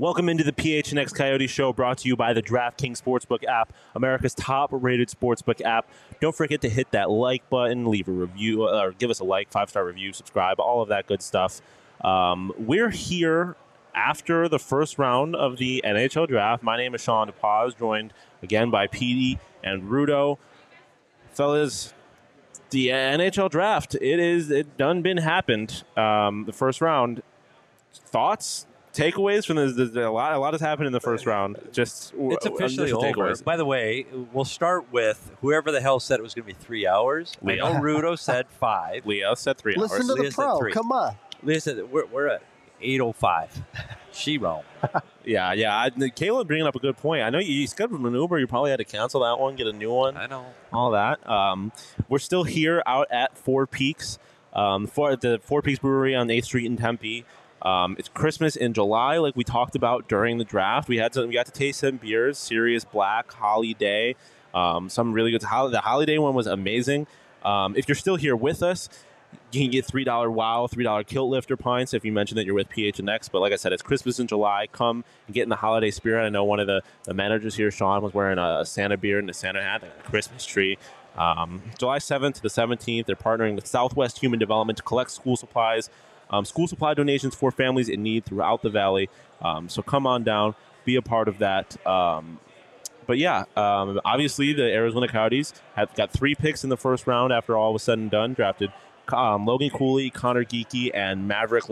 Welcome into the PHNX Coyote Show, brought to you by the DraftKings Sportsbook app, America's top-rated sportsbook app. Don't forget to hit that like button, leave a review, or give us a like, 5-star review, subscribe, all of that good stuff. We're here after the first round of the NHL Draft. My name is Sean DePaz, joined again by Petey and Rudo. Fellas, the NHL Draft, it done been happened. The first round. Thoughts? Takeaways from this? A lot has happened in the first round. Just it's officially over. Takeaways. By the way, we'll start with whoever the hell said it was going to be 3 hours. Leo. I know Rudo said 5. Leo said 3 hours. Listen to Leah the said pro. 3. Come on. Leah said we're at 8:05. She wrong. Yeah. Caleb bringing up a good point. I know you scheduled an Uber. You probably had to cancel that one, get a new one. I know. All that. We're still here out at Four Peaks, for the Four Peaks Brewery on 8th Street in Tempe. It's Christmas in July, like we talked about during the draft. We got to taste some beers, Sirius Black, Holiday, some really good. The Holiday one was amazing. If you're still here with us, you can get $3 Wow, $3 Kilt Lifter pints if you mention that you're with PHNX. But like I said, it's Christmas in July. Come and get in the holiday spirit. I know one of the managers here, Sean, was wearing a Santa beard and a Santa hat and a Christmas tree. July 7th to the 17th, they're partnering with Southwest Human Development to collect school supplies. School supply donations for families in need throughout the valley. So come on down, be a part of that. But yeah, obviously the Arizona Coyotes have got 3 picks in the first round after all was said and done. Drafted Logan Cooley, Connor Geeky, and Maverick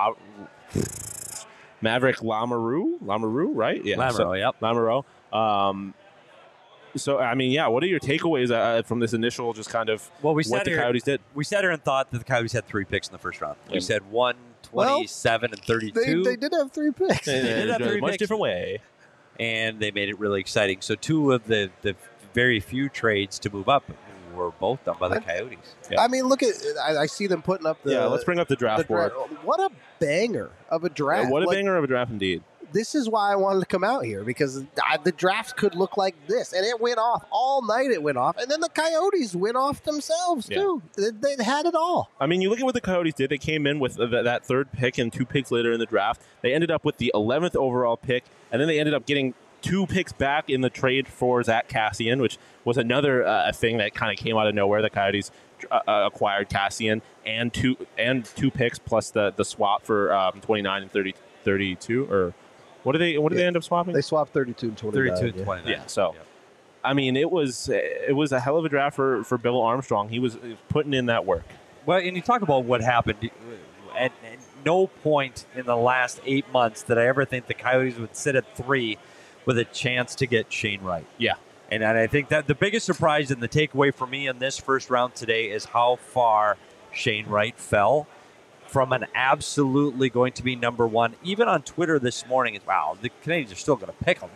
Lamoureux, right? Yeah, Lamoureux, yep. Lamoureux. So, I mean, yeah, what are your takeaways from this initial just kind of what the Coyotes did? We sat here and thought that the Coyotes had 3 picks in the first round. We said 1, 27, and 32. They did have 3 picks. They did have 3 much picks. different way. And they made it really exciting. So 2 of the very few trades to move up were both done by the Coyotes. Yeah. I mean, look at I see them putting up the. Yeah, let's bring up the draft board. What a banger of a draft! Yeah, what a banger of a draft indeed. This is why I wanted to come out here, because the draft could look like this, and it went off all night. It went off, and then the Coyotes went off themselves too. They had it all. I mean, you look at what the Coyotes did. They came in with that 3rd pick, and 2 picks later in the draft, they ended up with the 11th overall pick, and then they ended up getting 2 picks back in the trade for Zach Kassian, which was another thing that kind of came out of nowhere. The Coyotes acquired Kassian and two picks plus the swap for 29 and 32 or. What did they end up swapping? They swapped 32 and 29. 32 and 29. Yeah, so I mean, it was a hell of a draft for Bill Armstrong. He was putting in that work. Well, and you talk about what happened. At no point in the last 8 months did I ever think the Coyotes would sit at 3 with a chance to get Shane Wright. Yeah. And I think that the biggest surprise and the takeaway for me in this first round today is how far Shane Wright fell from an absolutely going to be number 1. Even on Twitter this morning, it's wow, the Canadians are still going to pick him.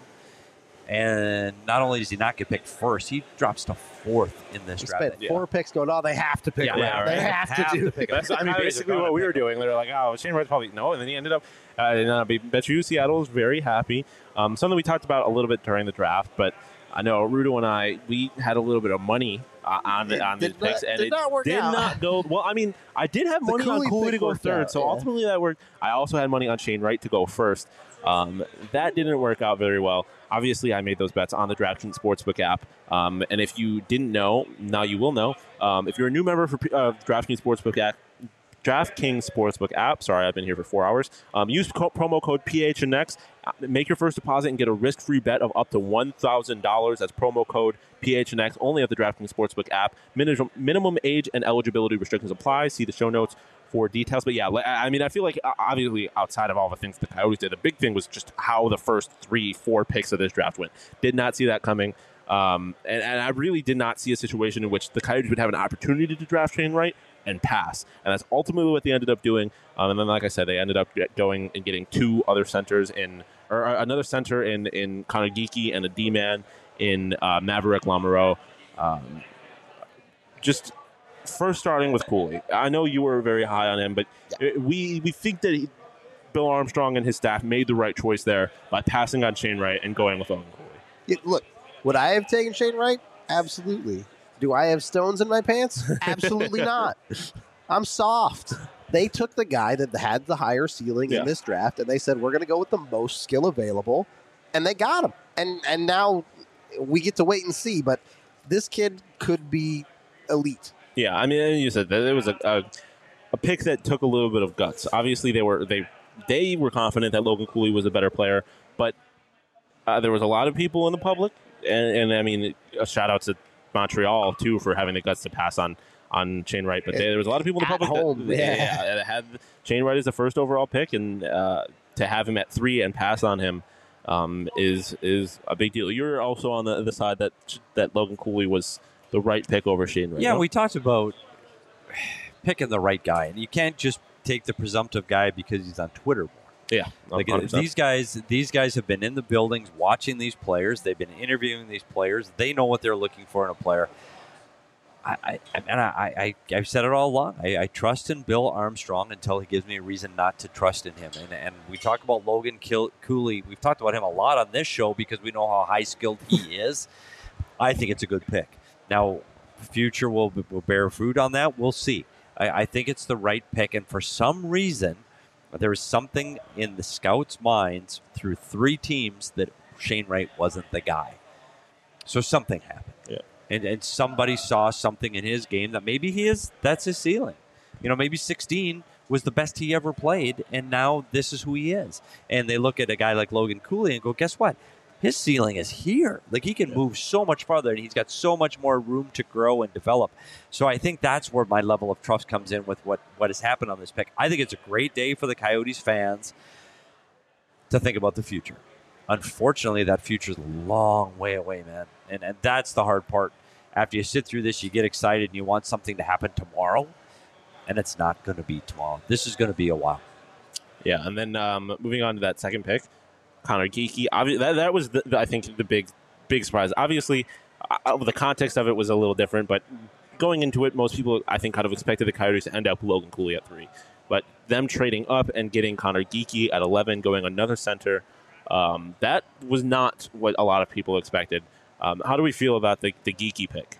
And not only does he not get picked first, he drops to 4th in this draft. Spent 4 picks going, they have to pick him. Right. They have to pick him. That's, I mean, basically what we were doing. They were like, oh, Shane Wright's probably no. And then he ended up, bet you Seattle was very happy. Something we talked about a little bit during the draft, but I know Rudo and I, we had a little bit of money on these picks, and it did not go well. I mean, I did have money on Cooley to go 3rd, so ultimately that worked. I also had money on Shane Wright to go 1st. That didn't work out very well. Obviously, I made those bets on the DraftKings Sportsbook app, and if you didn't know, now you will know. If you're a new member for DraftKings Sportsbook app, DraftKings Sportsbook app. Sorry, I've been here for 4 hours. Use promo code PHNX. Make your first deposit and get a risk-free bet of up to $1,000. That's promo code PHNX only at the DraftKings Sportsbook app. Minimum age and eligibility restrictions apply. See the show notes for details. But yeah, I mean, I feel like obviously outside of all the things the Coyotes did, the big thing was just how the first 3-4 picks of this draft went. Did not see that coming. And I really did not see a situation in which the Coyotes would have an opportunity to draft Shane Wright and pass. And that's ultimately what they ended up doing. And then, like I said, they ended up going and getting 2 other centers or another center in Connor Geeky and a D-man in Maverick Lamoureux. Just first starting with Cooley. I know you were very high on him, but we think that Bill Armstrong and his staff made the right choice there by passing on Shane Wright and going with Logan Cooley. Yeah, look, would I have taken Shane Wright? Absolutely. Do I have stones in my pants? Absolutely not. I'm soft. They took the guy that had the higher ceiling in this draft, and they said, we're going to go with the most skill available, and they got him. And now we get to wait and see, but this kid could be elite. Yeah, I mean, you said that it was a pick that took a little bit of guts. Obviously, they were confident that Logan Cooley was a better player, but there was a lot of people in the public, and I mean, a shout out to Montreal too for having the guts to pass on Shane Wright. But there was a lot of people in the public that had Shane Wright as the first overall pick, and to have him at 3 and pass on him is a big deal. You're also on the side that Logan Cooley was the right pick over Shane Wright. Yeah, we talked about picking the right guy, and you can't just take the presumptive guy because he's on Twitter more. Yeah, like these guys have been in the buildings watching these players. They've been interviewing these players. They know what they're looking for in a player. I've said it all along. I trust in Bill Armstrong until he gives me a reason not to trust in him. And we talk about Logan Cooley. We've talked about him a lot on this show because we know how high skilled he is. I think it's a good pick. Now, future will bear fruit on that. We'll see. I think it's the right pick, and for some reason, there was something in the scouts' minds through 3 teams that Shane Wright wasn't the guy. So something happened. Yeah. And somebody saw something in his game that maybe that's his ceiling. Maybe 16 was the best he ever played, and now this is who he is. And they look at a guy like Logan Cooley and go, guess what? His ceiling is here. Like, he can move so much farther, and he's got so much more room to grow and develop. So I think that's where my level of trust comes in with what has happened on this pick. I think it's a great day for the Coyotes fans to think about the future. Unfortunately, that future's a long way away, man. And that's the hard part. After you sit through this, you get excited and you want something to happen tomorrow, and it's not going to be tomorrow. This is going to be a while. Yeah, and then moving on to that second pick, Connor Geekie. That was, I think, the big surprise. Obviously, the context of it was a little different, but going into it, most people, I think, kind of expected the Coyotes to end up Logan Cooley at 3. But them trading up and getting Connor Geekie at 11, going another center, that was not what a lot of people expected. How do we feel about the Geekie pick?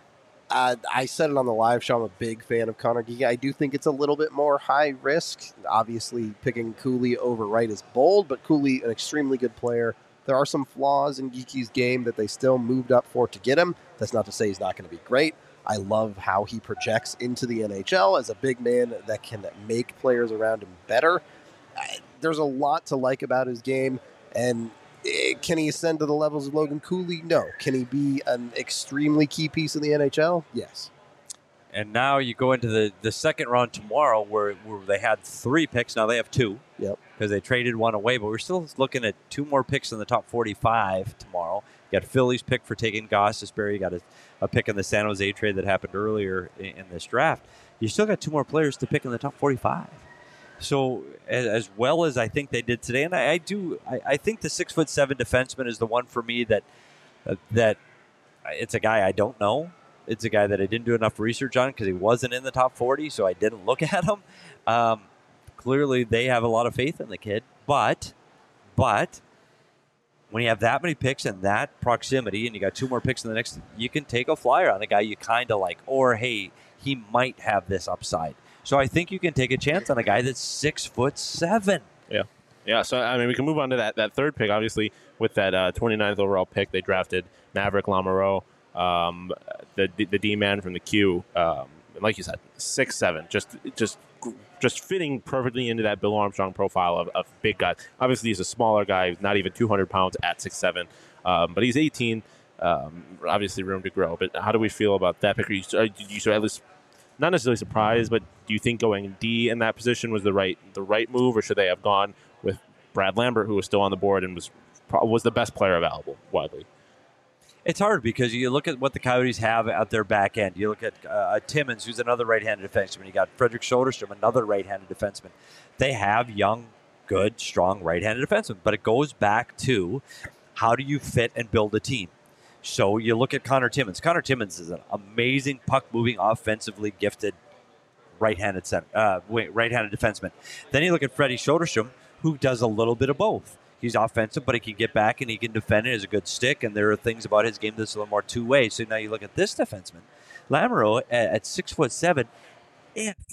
I said it on the live show. I'm a big fan of Connor Geekie. I do think it's a little bit more high risk. Obviously, picking Cooley over Wright is bold, but Cooley, an extremely good player. There are some flaws in Geekie's game that they still moved up for to get him. That's not to say he's not going to be great. I love how he projects into the NHL as a big man that can make players around him better. There's a lot to like about his game, and can he ascend to the levels of Logan Cooley? No. Can he be an extremely key piece in the NHL? Yes. And now you go into the second round tomorrow where they had 3 picks. Now they have 2. Yep. Because they traded one away. But we're still looking at 2 more picks in the top 45 tomorrow. You got Philly's pick for taking Gostisbehere. You got a pick in the San Jose trade that happened earlier in this draft. You still got 2 more players to pick in the top 45. So as well as I think they did today, and I think the 6'7" defenseman is the one for me that it's a guy I don't know. It's a guy that I didn't do enough research on because he wasn't in the top 40, so I didn't look at him. Clearly, they have a lot of faith in the kid, but when you have that many picks and that proximity, and you got 2 more picks in the next, you can take a flyer on a guy you kind of like, or hey, he might have this upside. So I think you can take a chance on a guy that's 6'7". Yeah. So I mean, we can move on to that third pick. Obviously, with that 29th overall pick, they drafted Maverick Lamoureux, the D man from the Q. Like you said, 6'7", just fitting perfectly into that Bill Armstrong profile of big guys. Obviously, he's a smaller guy. He's not even 200 pounds at 6'7", but he's 18. Obviously, room to grow. But how do we feel about that pick? Did you at least not necessarily surprised, but do you think going D in that position was the right move, or should they have gone with Brad Lambert, who was still on the board and was the best player available widely? It's hard because you look at what the Coyotes have at their back end. You look at Timmins, who's another right-handed defenseman. You got Frederick Soderstrom, another right-handed defenseman. They have young, good, strong right-handed defensemen, but it goes back to how do you fit and build a team? So you look at Connor Timmins. Connor Timmins is an amazing puck-moving, offensively gifted right-handed defenseman. Then you look at Freddie Soderstrom, who does a little bit of both. He's offensive, but he can get back and he can defend. It has a good stick, and there are things about his game that's a little more two-way. So now you look at this defenseman, Lamoureux at 6'7". If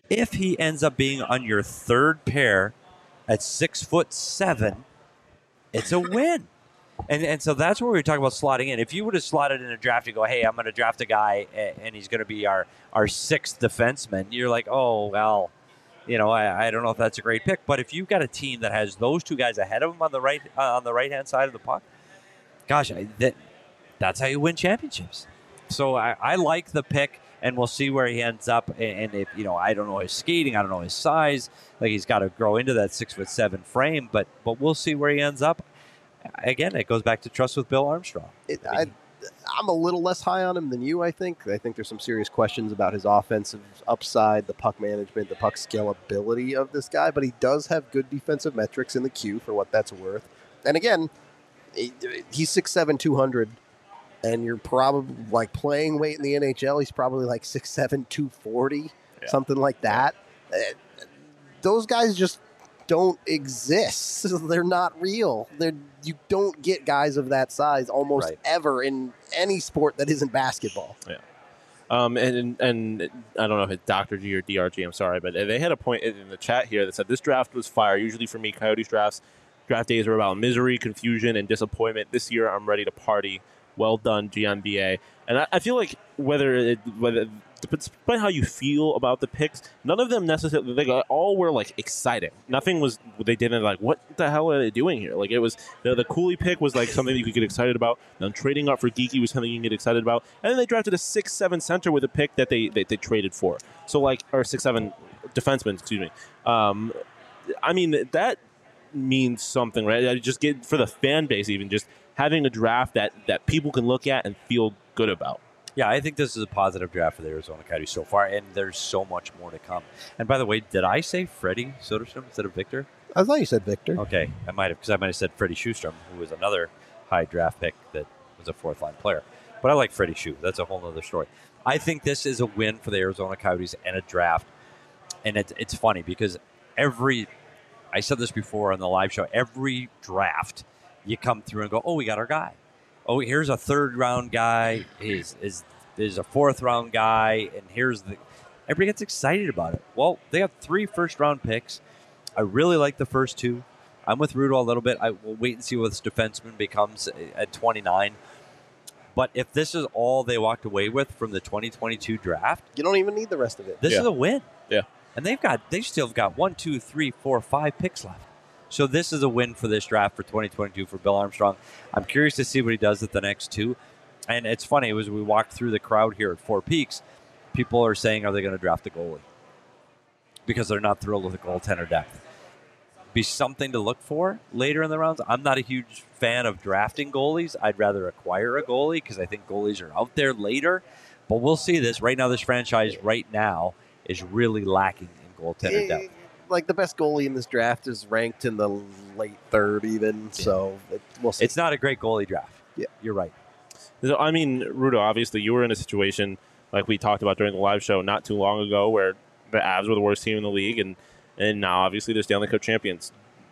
If he ends up being on your third pair at 6'7", it's a win. And so that's where we talk about slotting in. If you would have slotted in a draft, you go, hey, I'm going to draft a guy, and he's going to be our sixth defenseman. You're like, oh, well, I don't know if that's a great pick. But if you've got a team that has those two guys ahead of him on the right-hand side of the puck, gosh, that's how you win championships. So I like the pick, and we'll see where he ends up. And if I don't know his skating, I don't know his size. Like, he's got to grow into that 6'7" frame, but we'll see where he ends up. Again, it goes back to trust with Bill Armstrong. I'm a little less high on him than you, I think. I think there's some serious questions about his offensive upside, the puck management, the puck scalability of this guy, but he does have good defensive metrics in the queue for what that's worth. And again, he's 6'7", 200, and you're probably like playing weight in the NHL. He's probably like 6'7", 240, something like that. Those guys just don't exist. They're not real. You don't get guys of that size almost ever in any sport that isn't basketball. Yeah. And I don't know if it's Dr. G or DRG, I'm sorry, but they had a point in the chat here that said this draft was fire. Usually for me, Coyotes draft days are about misery, confusion, and disappointment. This year, I'm ready to party. Well done, GMBA. And I feel like whether despite how you feel about the picks, none of them necessarily, they all were like exciting. Nothing was, they didn't like, what the hell are they doing here? Like, it was, the Cooley pick was like something you could get excited about. Then trading up for Geeky was something you can get excited about. And then they drafted a 6'7" center with a pick that they traded for. So like, or 6'7" defenseman, excuse me. I mean, that means something, right? I just get, for the fan base even, just having a draft that people can look at and feel good about. Yeah, I think this is a positive draft for the Arizona Coyotes so far, and there's so much more to come. And by the way, did I say Freddie Soderstrom instead of Victor? I thought you said Victor. Okay, I might have said Freddie Sjostrom, who was another high draft pick that was a fourth-line player. But I like Freddie Sjö. That's a whole other story. I think this is a win for the Arizona Coyotes and a draft. And it's funny because I said this before on the live show, every draft you come through and go, oh, we got our guy. Oh, here's a third-round guy. Is a fourth-round guy, and everybody gets excited about it. Well, they have 3 first-round picks. I really like the first 2. I'm with Rudo a little bit. I will wait and see what this defenseman becomes at 29. But if this is all they walked away with from the 2022 draft, you don't even need the rest of it. This is a win. Yeah, and they still have got 1, 2, 3, 4, 5 picks left. So this is a win for this draft for 2022 for Bill Armstrong. I'm curious to see what he does at the next 2. And it's funny, as we walked through the crowd here at Four Peaks, people are saying, are they going to draft a goalie? Because they're not thrilled with the goaltender depth. Be something to look for later in the rounds. I'm not a huge fan of drafting goalies. I'd rather acquire a goalie because I think goalies are out there later. But we'll see this. Right now, this franchise right now is really lacking in goaltender depth. Like, the best goalie in this draft is ranked in the late third even, so we'll see. It's not a great goalie draft. Yeah, you're right. So, I mean, Rudo, obviously you were in a situation like we talked about during the live show not too long ago where the Avs were the worst team in the league, and now obviously they're Stanley Cup champions.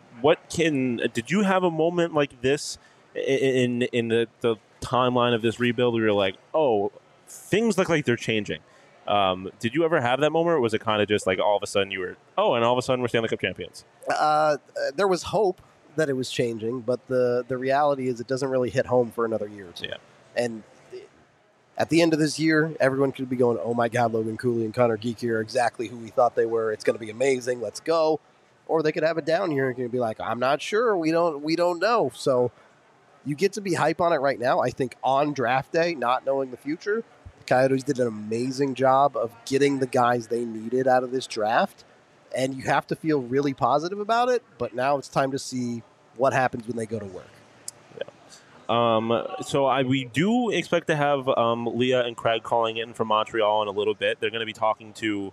Did you have a moment like this in the timeline of this rebuild where you're like, oh, things look like they're changing? Did you ever have that moment, or was it kind of just like all of a sudden and all of a sudden we're Stanley Cup champions? There was hope that it was changing, but the reality is it doesn't really hit home for another year or two. Yeah. And at the end of this year, everyone could be going, oh my God, Logan Cooley and Connor Geeky are exactly who we thought they were. It's going to be amazing. Let's go. Or they could have it down here and be like, I'm not sure. We don't know. So you get to be hype on it right now. I think on draft day, not knowing the future, the Coyotes did an amazing job of getting the guys they needed out of this draft. And you have to feel really positive about it. But now it's time to see what happens when they go to work. So we do expect to have Leah and Craig calling in from Montreal in a little bit. They're going to be talking to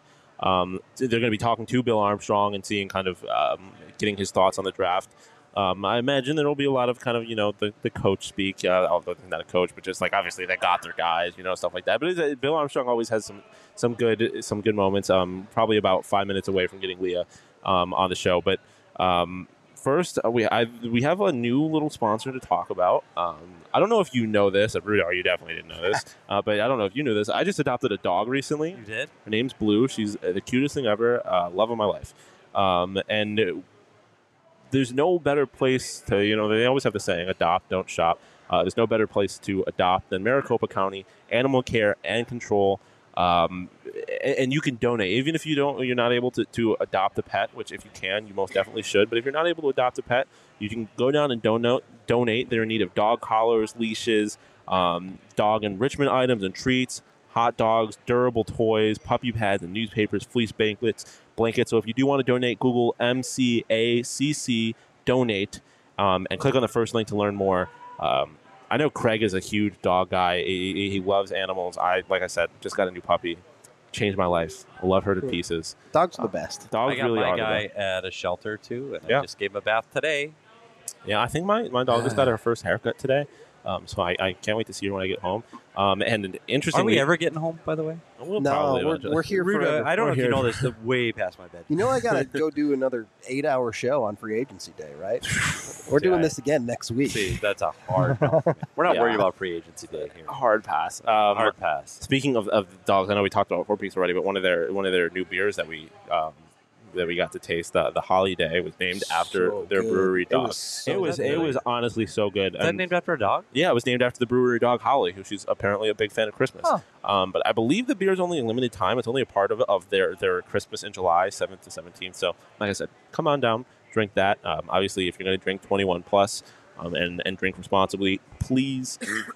Bill Armstrong and seeing kind of getting his thoughts on the draft. I imagine there will be a lot of kind of the coach speak. Although not a coach, but just like obviously they got their guys, stuff like that. But Bill Armstrong always has some good moments. Probably about 5 minutes away from getting Leah on the show, but. first, we have a new little sponsor to talk about. I don't know if you know this. Rudo, you definitely didn't know this. But I don't know if you knew this. I just adopted a dog recently. You did? Her name's Blue. She's the cutest thing ever. Love of my life. And there's no better place to, they always have the saying, adopt, don't shop. There's no better place to adopt than Maricopa County Animal Care and Control. And you can donate, even if you're not able to adopt a pet, which if you can, you most definitely should. But if you're not able to adopt a pet, you can go down and donate. They're in need of dog collars, leashes, dog enrichment items and treats, hot dogs, durable toys, puppy pads and newspapers, fleece blankets. So if you do want to donate, Google MCACC donate and click on the first link to learn more. I know Craig is a huge dog guy. He loves animals. Like I said, just got a new puppy. Changed my life. I love her to pieces. Dogs are the best. Dogs I got really my are guy the best. at a shelter too, and Yeah. I just gave him a bath today. Yeah, I think my dog just got her first haircut today. So I can't wait to see her when I get home. And interestingly, Are we ever getting home, by the way? We'll No, probably we're eventually. here Ruda, forever. I don't know if you We're know here. this. It's way past my bed. You know I got to go do another 8-hour show on free agency day, right? We're doing Yeah. this again next week. See, that's a hard no for me. We're not Yeah. worried about free agency day here. Hard pass. Hard pass. Speaking of dogs, I know we talked about 4 Peaks already, but one of their new beers that we got to taste, the Holiday, was named after So their good. brewery It dog. was so It was good. honestly so good. Is that And- named after a dog? Yeah, it was named after the brewery dog Holly, who she's apparently a big fan of Christmas. Huh. But I believe the beer is only a limited time. It's only a part of their Christmas in July, 7th to 17th. So, like I said, come on down, drink that. Obviously, if you're going to drink 21 plus and drink responsibly, please.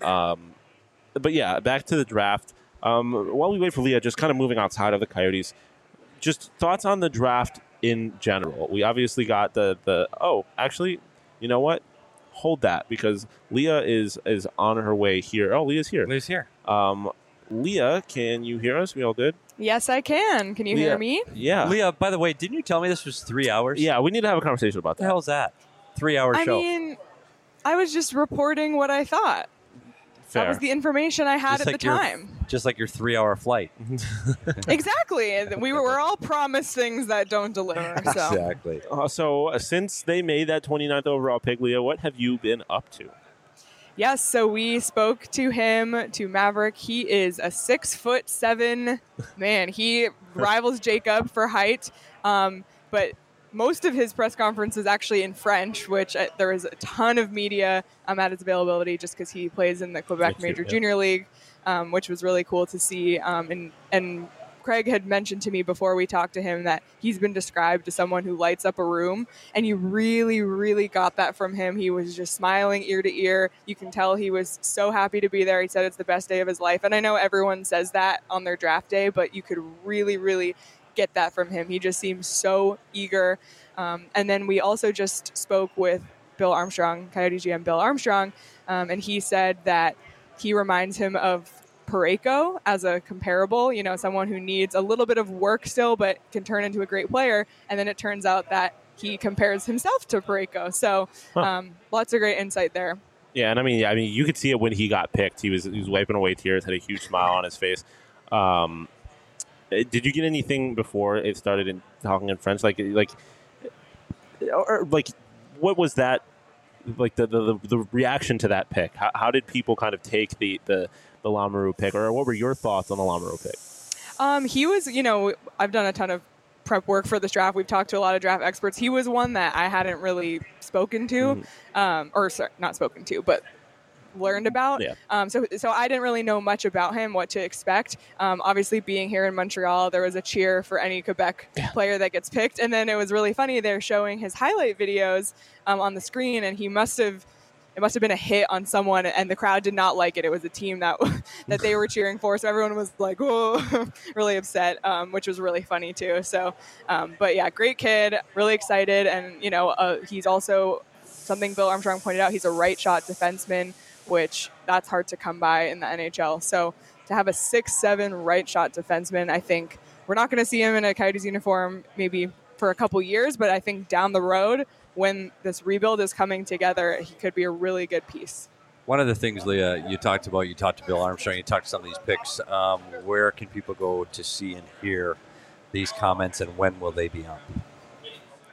But yeah, back to the draft. While we wait for Leah, just kind of moving outside of the Coyotes, just thoughts on the draft in general. We obviously got actually, you know what? Hold that, because Leah is on her way here. Oh, Leah's here. Leah's here. Leah, can you hear us? We all good? Yes, I can. Can you Leah. hear me? Yeah. Leah, by the way, didn't you tell me this was 3 hours? Yeah, we need to have a conversation about What the that. hell's that? 3-hour I show. mean, I was just reporting what I thought. Fair. That was the information I had Just at like the your- time. Just like your 3-hour flight. Exactly. And we're all promised things that don't deliver. So Exactly. So since they made that 29th overall pick, Leah, what have you been up to? yes, so we spoke to him, to Maverick. He is a 6'7" man. He rivals Jacob for height. But most of his press conference is actually in French, which there is a ton of media at his availability just because he plays in the Quebec Major Junior League, which was really cool to see. And Craig had mentioned to me before we talked to him that he's been described as someone who lights up a room, and you really, really got that from him. He was just smiling ear to ear. You can tell he was so happy to be there. He said it's the best day of his life. And I know everyone says that on their draft day, but you could really, really get that from him. He just seems so eager. And then we also just spoke with Bill Armstrong, Coyote GM Bill Armstrong, and he said that he reminds him of Parayko as a comparable, someone who needs a little bit of work still, but can turn into a great player. And then it turns out that he compares himself to Parayko. So lots of great insight there. Yeah, and I mean, you could see it when he got picked. He was wiping away tears, had a huge smile on his face. Did you get anything before it started in talking in French? Like, what was that? Like the reaction to that pick? How did people kind of take the Lamoureux pick, or what were your thoughts on the Lamoureux pick? He was, I've done a ton of prep work for this draft. We've talked to a lot of draft experts. He was one that I hadn't really spoken to, not spoken to, but learned about. Yeah. So I didn't really know much about him, what to expect. Obviously, being here in Montreal, there was a cheer for any Quebec player that gets picked. And then it was really funny. They're showing his highlight videos on the screen, and it must have been a hit on someone, and the crowd did not like it. It was a team that they were cheering for, so everyone was like, "Whoa," really upset, which was really funny too. So, but yeah, great kid, really excited, and he's also something Bill Armstrong pointed out. He's a right shot defenseman, which that's hard to come by in the NHL. So to have a 6'7" right shot defenseman, I think we're not going to see him in a Coyotes uniform maybe for a couple years, but I think down the road, when this rebuild is coming together, he could be a really good piece. One of the things, Leah, you talked to Bill Armstrong, you talked to some of these picks. Where can people go to see and hear these comments, and when will they be up?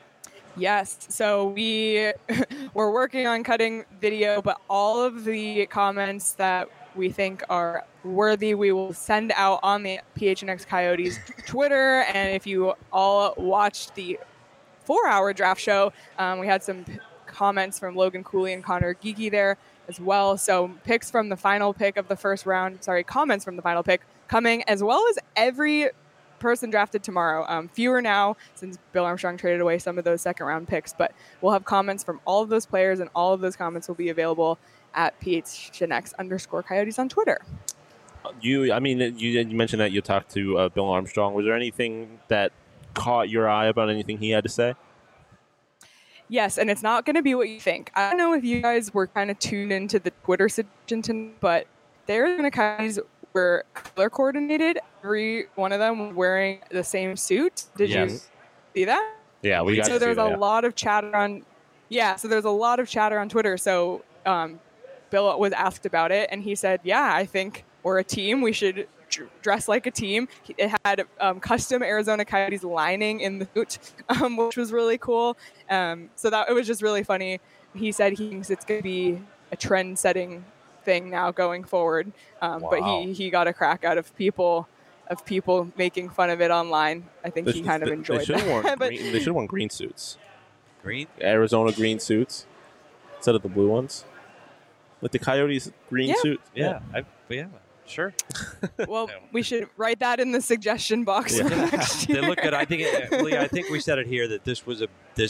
Yes. So we we're working on cutting video, but all of the comments that we think are worthy, we will send out on the PHNX Coyotes Twitter. And if you all watched the 4-hour draft show, we had some comments from Logan Cooley and Connor Geeky there as well. So picks from the final pick of the first round, comments from the final pick coming, as well as every person drafted tomorrow. Fewer now since Bill Armstrong traded away some of those second round picks, but we'll have comments from all of those players, and all of those comments will be available at PHNX_Coyotes on Twitter. You mentioned that you talked to Bill Armstrong. Was there anything that caught your eye about anything he had to say? Yes, and it's not going to be what you think. I don't know if you guys were kind of tuned into the Twitter situation, but the Arizona Coyotes were color coordinated. Every one of them was wearing the same suit. Did you see that? Yeah, we got to see that. So there's a lot of chatter on. Yeah, so there's a lot of chatter on Twitter. So Bill was asked about it, and he said, "Yeah, I think we're a team. We should dress like a team." It had custom Arizona Coyotes lining in the suit, which was really cool. So that it was just really funny. He said he thinks it's going to be a trend-setting thing now going forward. But he got a crack out of people making fun of it online. I think he kind of enjoyed that. They should have worn green suits. Green? Arizona green suits instead of the blue ones. With the Coyotes green suit. Yeah. Sure. Well, we should write that in the suggestion box for next year. They look good. I think we said it here that this was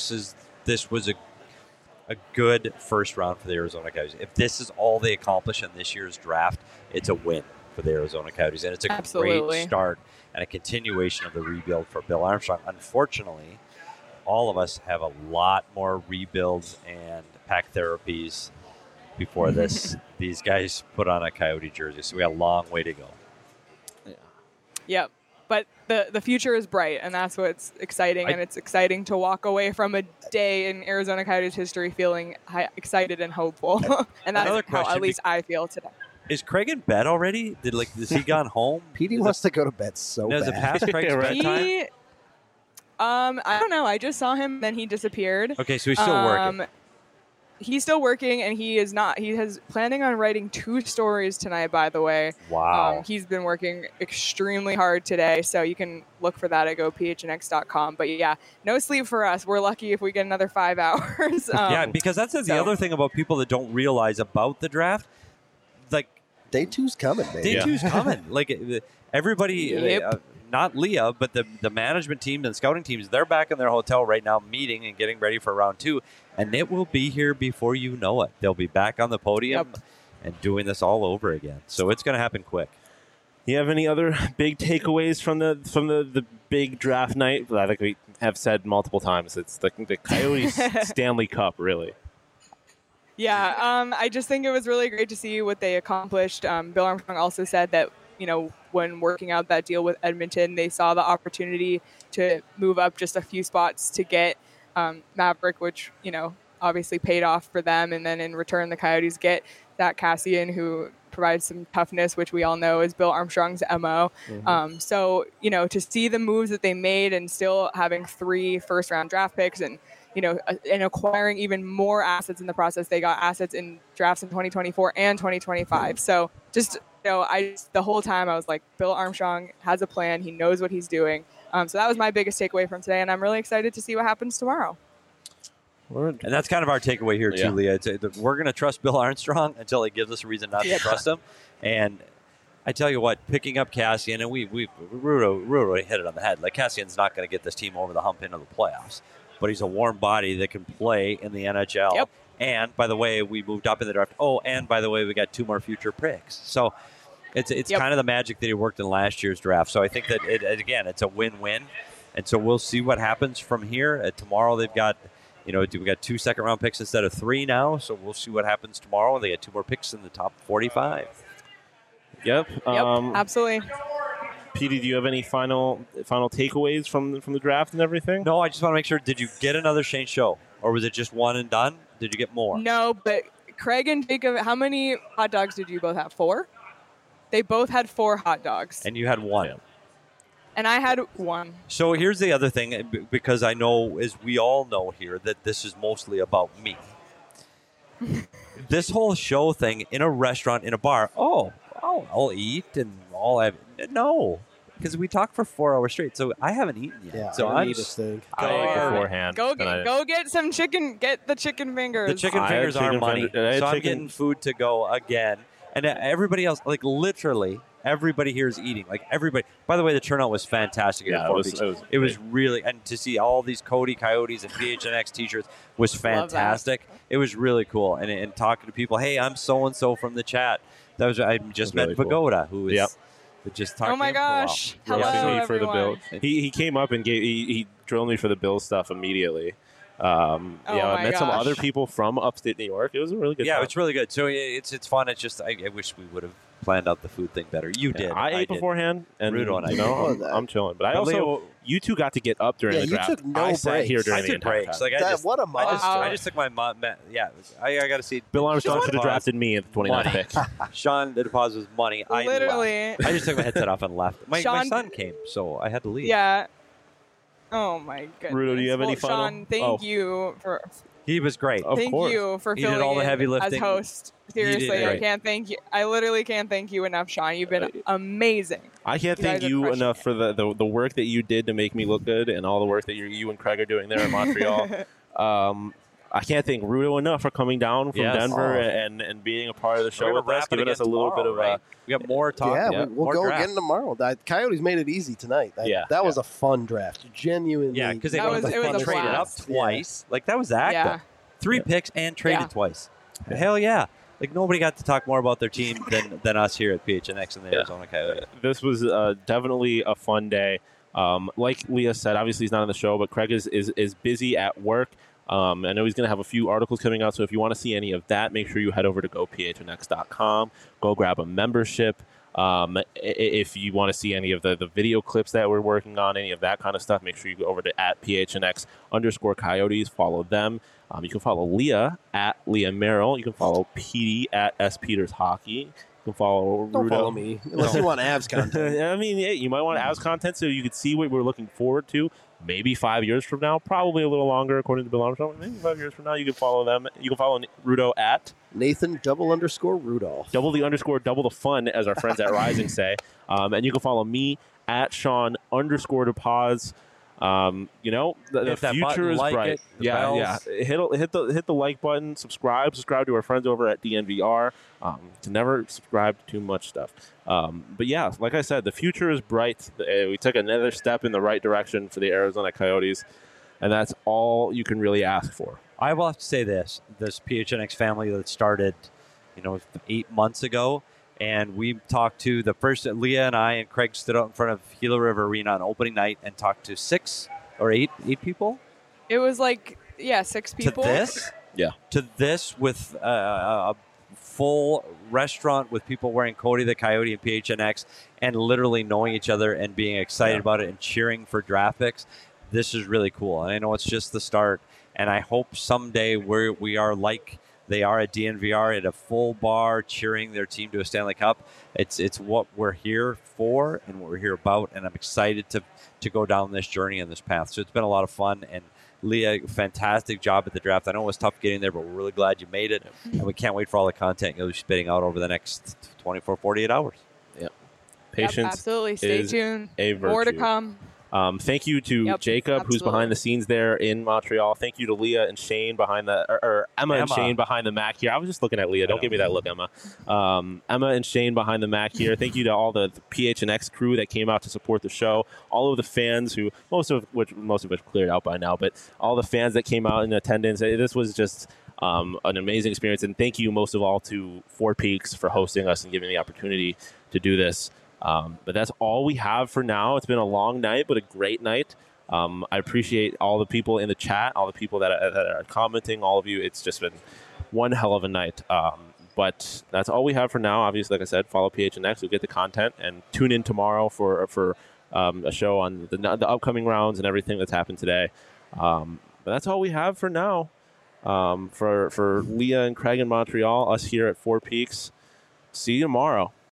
a good first round for the Arizona Coyotes. If this is all they accomplish in this year's draft, it's a win for the Arizona Coyotes, and it's a great start and a continuation of the rebuild for Bill Armstrong. Unfortunately, all of us have a lot more rebuilds and pack therapies before these guys put on a Coyote jersey, so we got a long way to go. Yep. But the future is bright, and that's what's exciting. And it's exciting to walk away from a day in Arizona Coyotes history feeling excited and hopeful. And that's how at least I feel today. Is Craig in bed already? Has he gone home? Petey wants to go to bed so bad. Does it pass Craig's bedtime? I don't know. I just saw him, then he disappeared. Okay, so he's still working. He's still working, and he is not. He is planning on writing 2 stories tonight, by the way. Wow. He's been working extremely hard today, so you can look for that at gophnx.com. But yeah, no sleep for us. We're lucky if we get another 5 hours. Yeah, because that's the other thing about people that don't realize about the draft. Like, Day 2's coming, man. Day 2's coming. Like, everybody, not Leah, but the management team and scouting teams, they're back in their hotel right now meeting and getting ready for round 2. And it will be here before you know it. They'll be back on the podium and doing this all over again. So it's going to happen quick. You have any other big takeaways from the big draft night? I think we have said multiple times. It's the Coyotes Stanley Cup, really. Yeah, I just think it was really great to see what they accomplished. Bill Armstrong also said that, when working out that deal with Edmonton, they saw the opportunity to move up just a few spots to get Maverick, which, obviously paid off for them. And then in return, the Coyotes get Zach Kassian, who provides some toughness, which we all know is Bill Armstrong's MO. Mm-hmm. So, to see the moves that they made and still having 3 first-round draft picks and acquiring even more assets in the process. They got assets in drafts in 2024 and 2025. So just, the whole time I was like, Bill Armstrong has a plan. He knows what he's doing. So that was my biggest takeaway from today, and I'm really excited to see what happens tomorrow. And that's kind of our takeaway here, too, Leah. We're going to trust Bill Armstrong until he gives us a reason not to trust him. And I tell you what, picking up Kassian, and Rudo hit it on the head. Like, Kassian's not going to get this team over the hump into the playoffs. But he's a warm body that can play in the NHL. Yep. And, by the way, we moved up in the draft. Oh, and, by the way, we got 2 more future picks. So it's kind of the magic that he worked in last year's draft. So I think that, it's a win-win. And so we'll see what happens from here. Tomorrow they've got, we got 2 second-round picks instead of 3 now. So we'll see what happens tomorrow. They got 2 more picks in the top 45. Yep. Absolutely. Petey, do you have any final takeaways from the draft and everything? No, I just want to make sure. Did you get another Shane Show, or was it just one and done? Did you get more? No, but Craig and Jacob, how many hot dogs did you both have? 4? They both had 4 hot dogs. And you had 1. and I had one. So here's the other thing, because I know, as we all know here, that this is mostly about me. This whole show thing in a restaurant, in a bar, I'll eat and all I no. Because we talked for 4 hours straight, so I haven't eaten yet. Yeah, so I I'm need this thing. I ate beforehand. Go get some chicken. Get the chicken fingers. The chicken I had fingers are chicken money. finger- I had So I'm chicken- getting food to go again. And everybody else, like literally, everybody here is eating. Like everybody. By the way, the turnout was fantastic. Yeah, at Fort Peaks. It was really, and to see all these Cody Coyotes and PHNX t-shirts was fantastic. It was really cool. And talking to people, hey, I'm so-and-so from the chat. I just met really cool. Pagoda, who is... Yep. Just talked Oh to my him for a while. gosh! Roasted Hello, me for the bill. everyone. He came up and he drilled me for the bill stuff immediately. Oh I my met some gosh. other people from upstate New York. It was a really good Yeah, time. it's really good. So it's fun. It's just I wish we would have planned out the food thing better. You did. I ate did. beforehand, and Rudo and I you know, did. I'm chilling. But I But also, Leo- you two got to get up during Yeah, the you draft. took no I sat here breaks. during I the took entire breaks. time. Like What a monster. I just took my mom. Yeah, I got to see. Bill Armstrong should have drafted me at the 29th Money. pick. Sean, the deposit was money. I Literally. left. I just took my headset off and left. My Sean- son came, so I had to leave. Yeah. Oh my goodness. Rudo, do you have any Well, final- Sean, thank Oh. you for He was great. Of thank course. you for He did filling all the in heavy as lifting. host. He did Seriously, I great. can't thank you. I literally can't thank you enough, Sean. You've been amazing. I can't You guys thank are you crushing enough it. for the work that you did to make me look good and all the work that you and Craig are doing there in Montreal. I can't thank Rudo enough for coming down from Yes. Denver Oh. and being a part of the We're show gonna with us, wrap it giving us a again little bit tomorrow, of right? We got more talk. Yeah, Yeah. we'll More go draft. again tomorrow. That Coyotes made it easy tonight. That was a fun draft. Genuinely. Yeah, because they That was- got it was a the traded up blast. twice. Like that was active. Yeah. 3 picks and traded Yeah. twice. Hell yeah! Like nobody got to talk more about their team than us here at PHNX and the Yeah. Arizona Coyotes. This was definitely a fun day. Like Leah said, obviously he's not on the show, but Craig is busy at work. I know he's going to have a few articles coming out, so if you want to see any of that, make sure you head over to gophnx.com. Go grab a membership. If you want to see any of the video clips that we're working on, any of that kind of stuff, make sure you go over to @PHNX_Coyotes. Follow them. You can follow Leah at Leah Merrill. You can follow Petey at S Peters Hockey. You can follow Don't Rudo. follow me unless you want abs content. I mean, yeah, you might want abs content so you could see what we're looking forward to. Maybe 5 years from now, probably a little longer, according to Bill Armstrong. Maybe 5 years from now, you can follow them. You can follow Rudo at Nathan _Rudolph. double the fun, as our friends at Rising say. And you can follow me at Sean _DePaz. The Hit that future button, is like bright. it, the Yeah. bells. Hit the like button. Subscribe to our friends over at DNVR. To never subscribe to too much stuff. But yeah, like I said, the future is bright. We took another step in the right direction for the Arizona Coyotes, and that's all you can really ask for. I will have to say this PHNX family that started, 8 months ago, and we talked to the first, Leah and I and Craig stood out in front of Gila River Arena on opening night and talked to 6 or 8 people. It was like 6 people. To this? Yeah. To this with a full restaurant with people wearing Cody the Coyote and PHNX and literally knowing each other and being excited about it and cheering for draft picks. This is really cool. And I know it's just the start. And I hope someday we are like they are at DNVR at a full bar cheering their team to a Stanley Cup. It's what we're here for and what we're here about. And I'm excited to go down this journey and this path. So it's been a lot of fun. And Leah, fantastic job at the draft. I know it was tough getting there, but we're really glad you made it. And we can't wait for all the content you'll be spitting out over the next 24, 48 hours. Patience absolutely. Stay is tuned. a More to virtue. come. Thank you to Jacob, who's absolutely. behind the scenes there in Montreal. Thank you to Leah and Shane behind or Emma and Shane behind the Mac here. I was just looking at Leah. Don't give me that look, Emma. Emma and Shane behind the Mac here. Thank you to all the PHNX crew that came out to support the show. All of the fans who most of which cleared out by now, but all the fans that came out in attendance. This was just an amazing experience, and thank you most of all to Four Peaks for hosting us and giving the opportunity to do this. But that's all we have for now. It's been a long night, but a great night. I appreciate all the people in the chat, all the people that are commenting, all of you. It's just been one hell of a night. But that's all we have for now. Obviously, like I said, follow PHNX. You'll get the content, and tune in tomorrow for a show on the upcoming rounds and everything that's happened today. But that's all we have for now. For Leah and Craig in Montreal, us here at Four Peaks. See you tomorrow.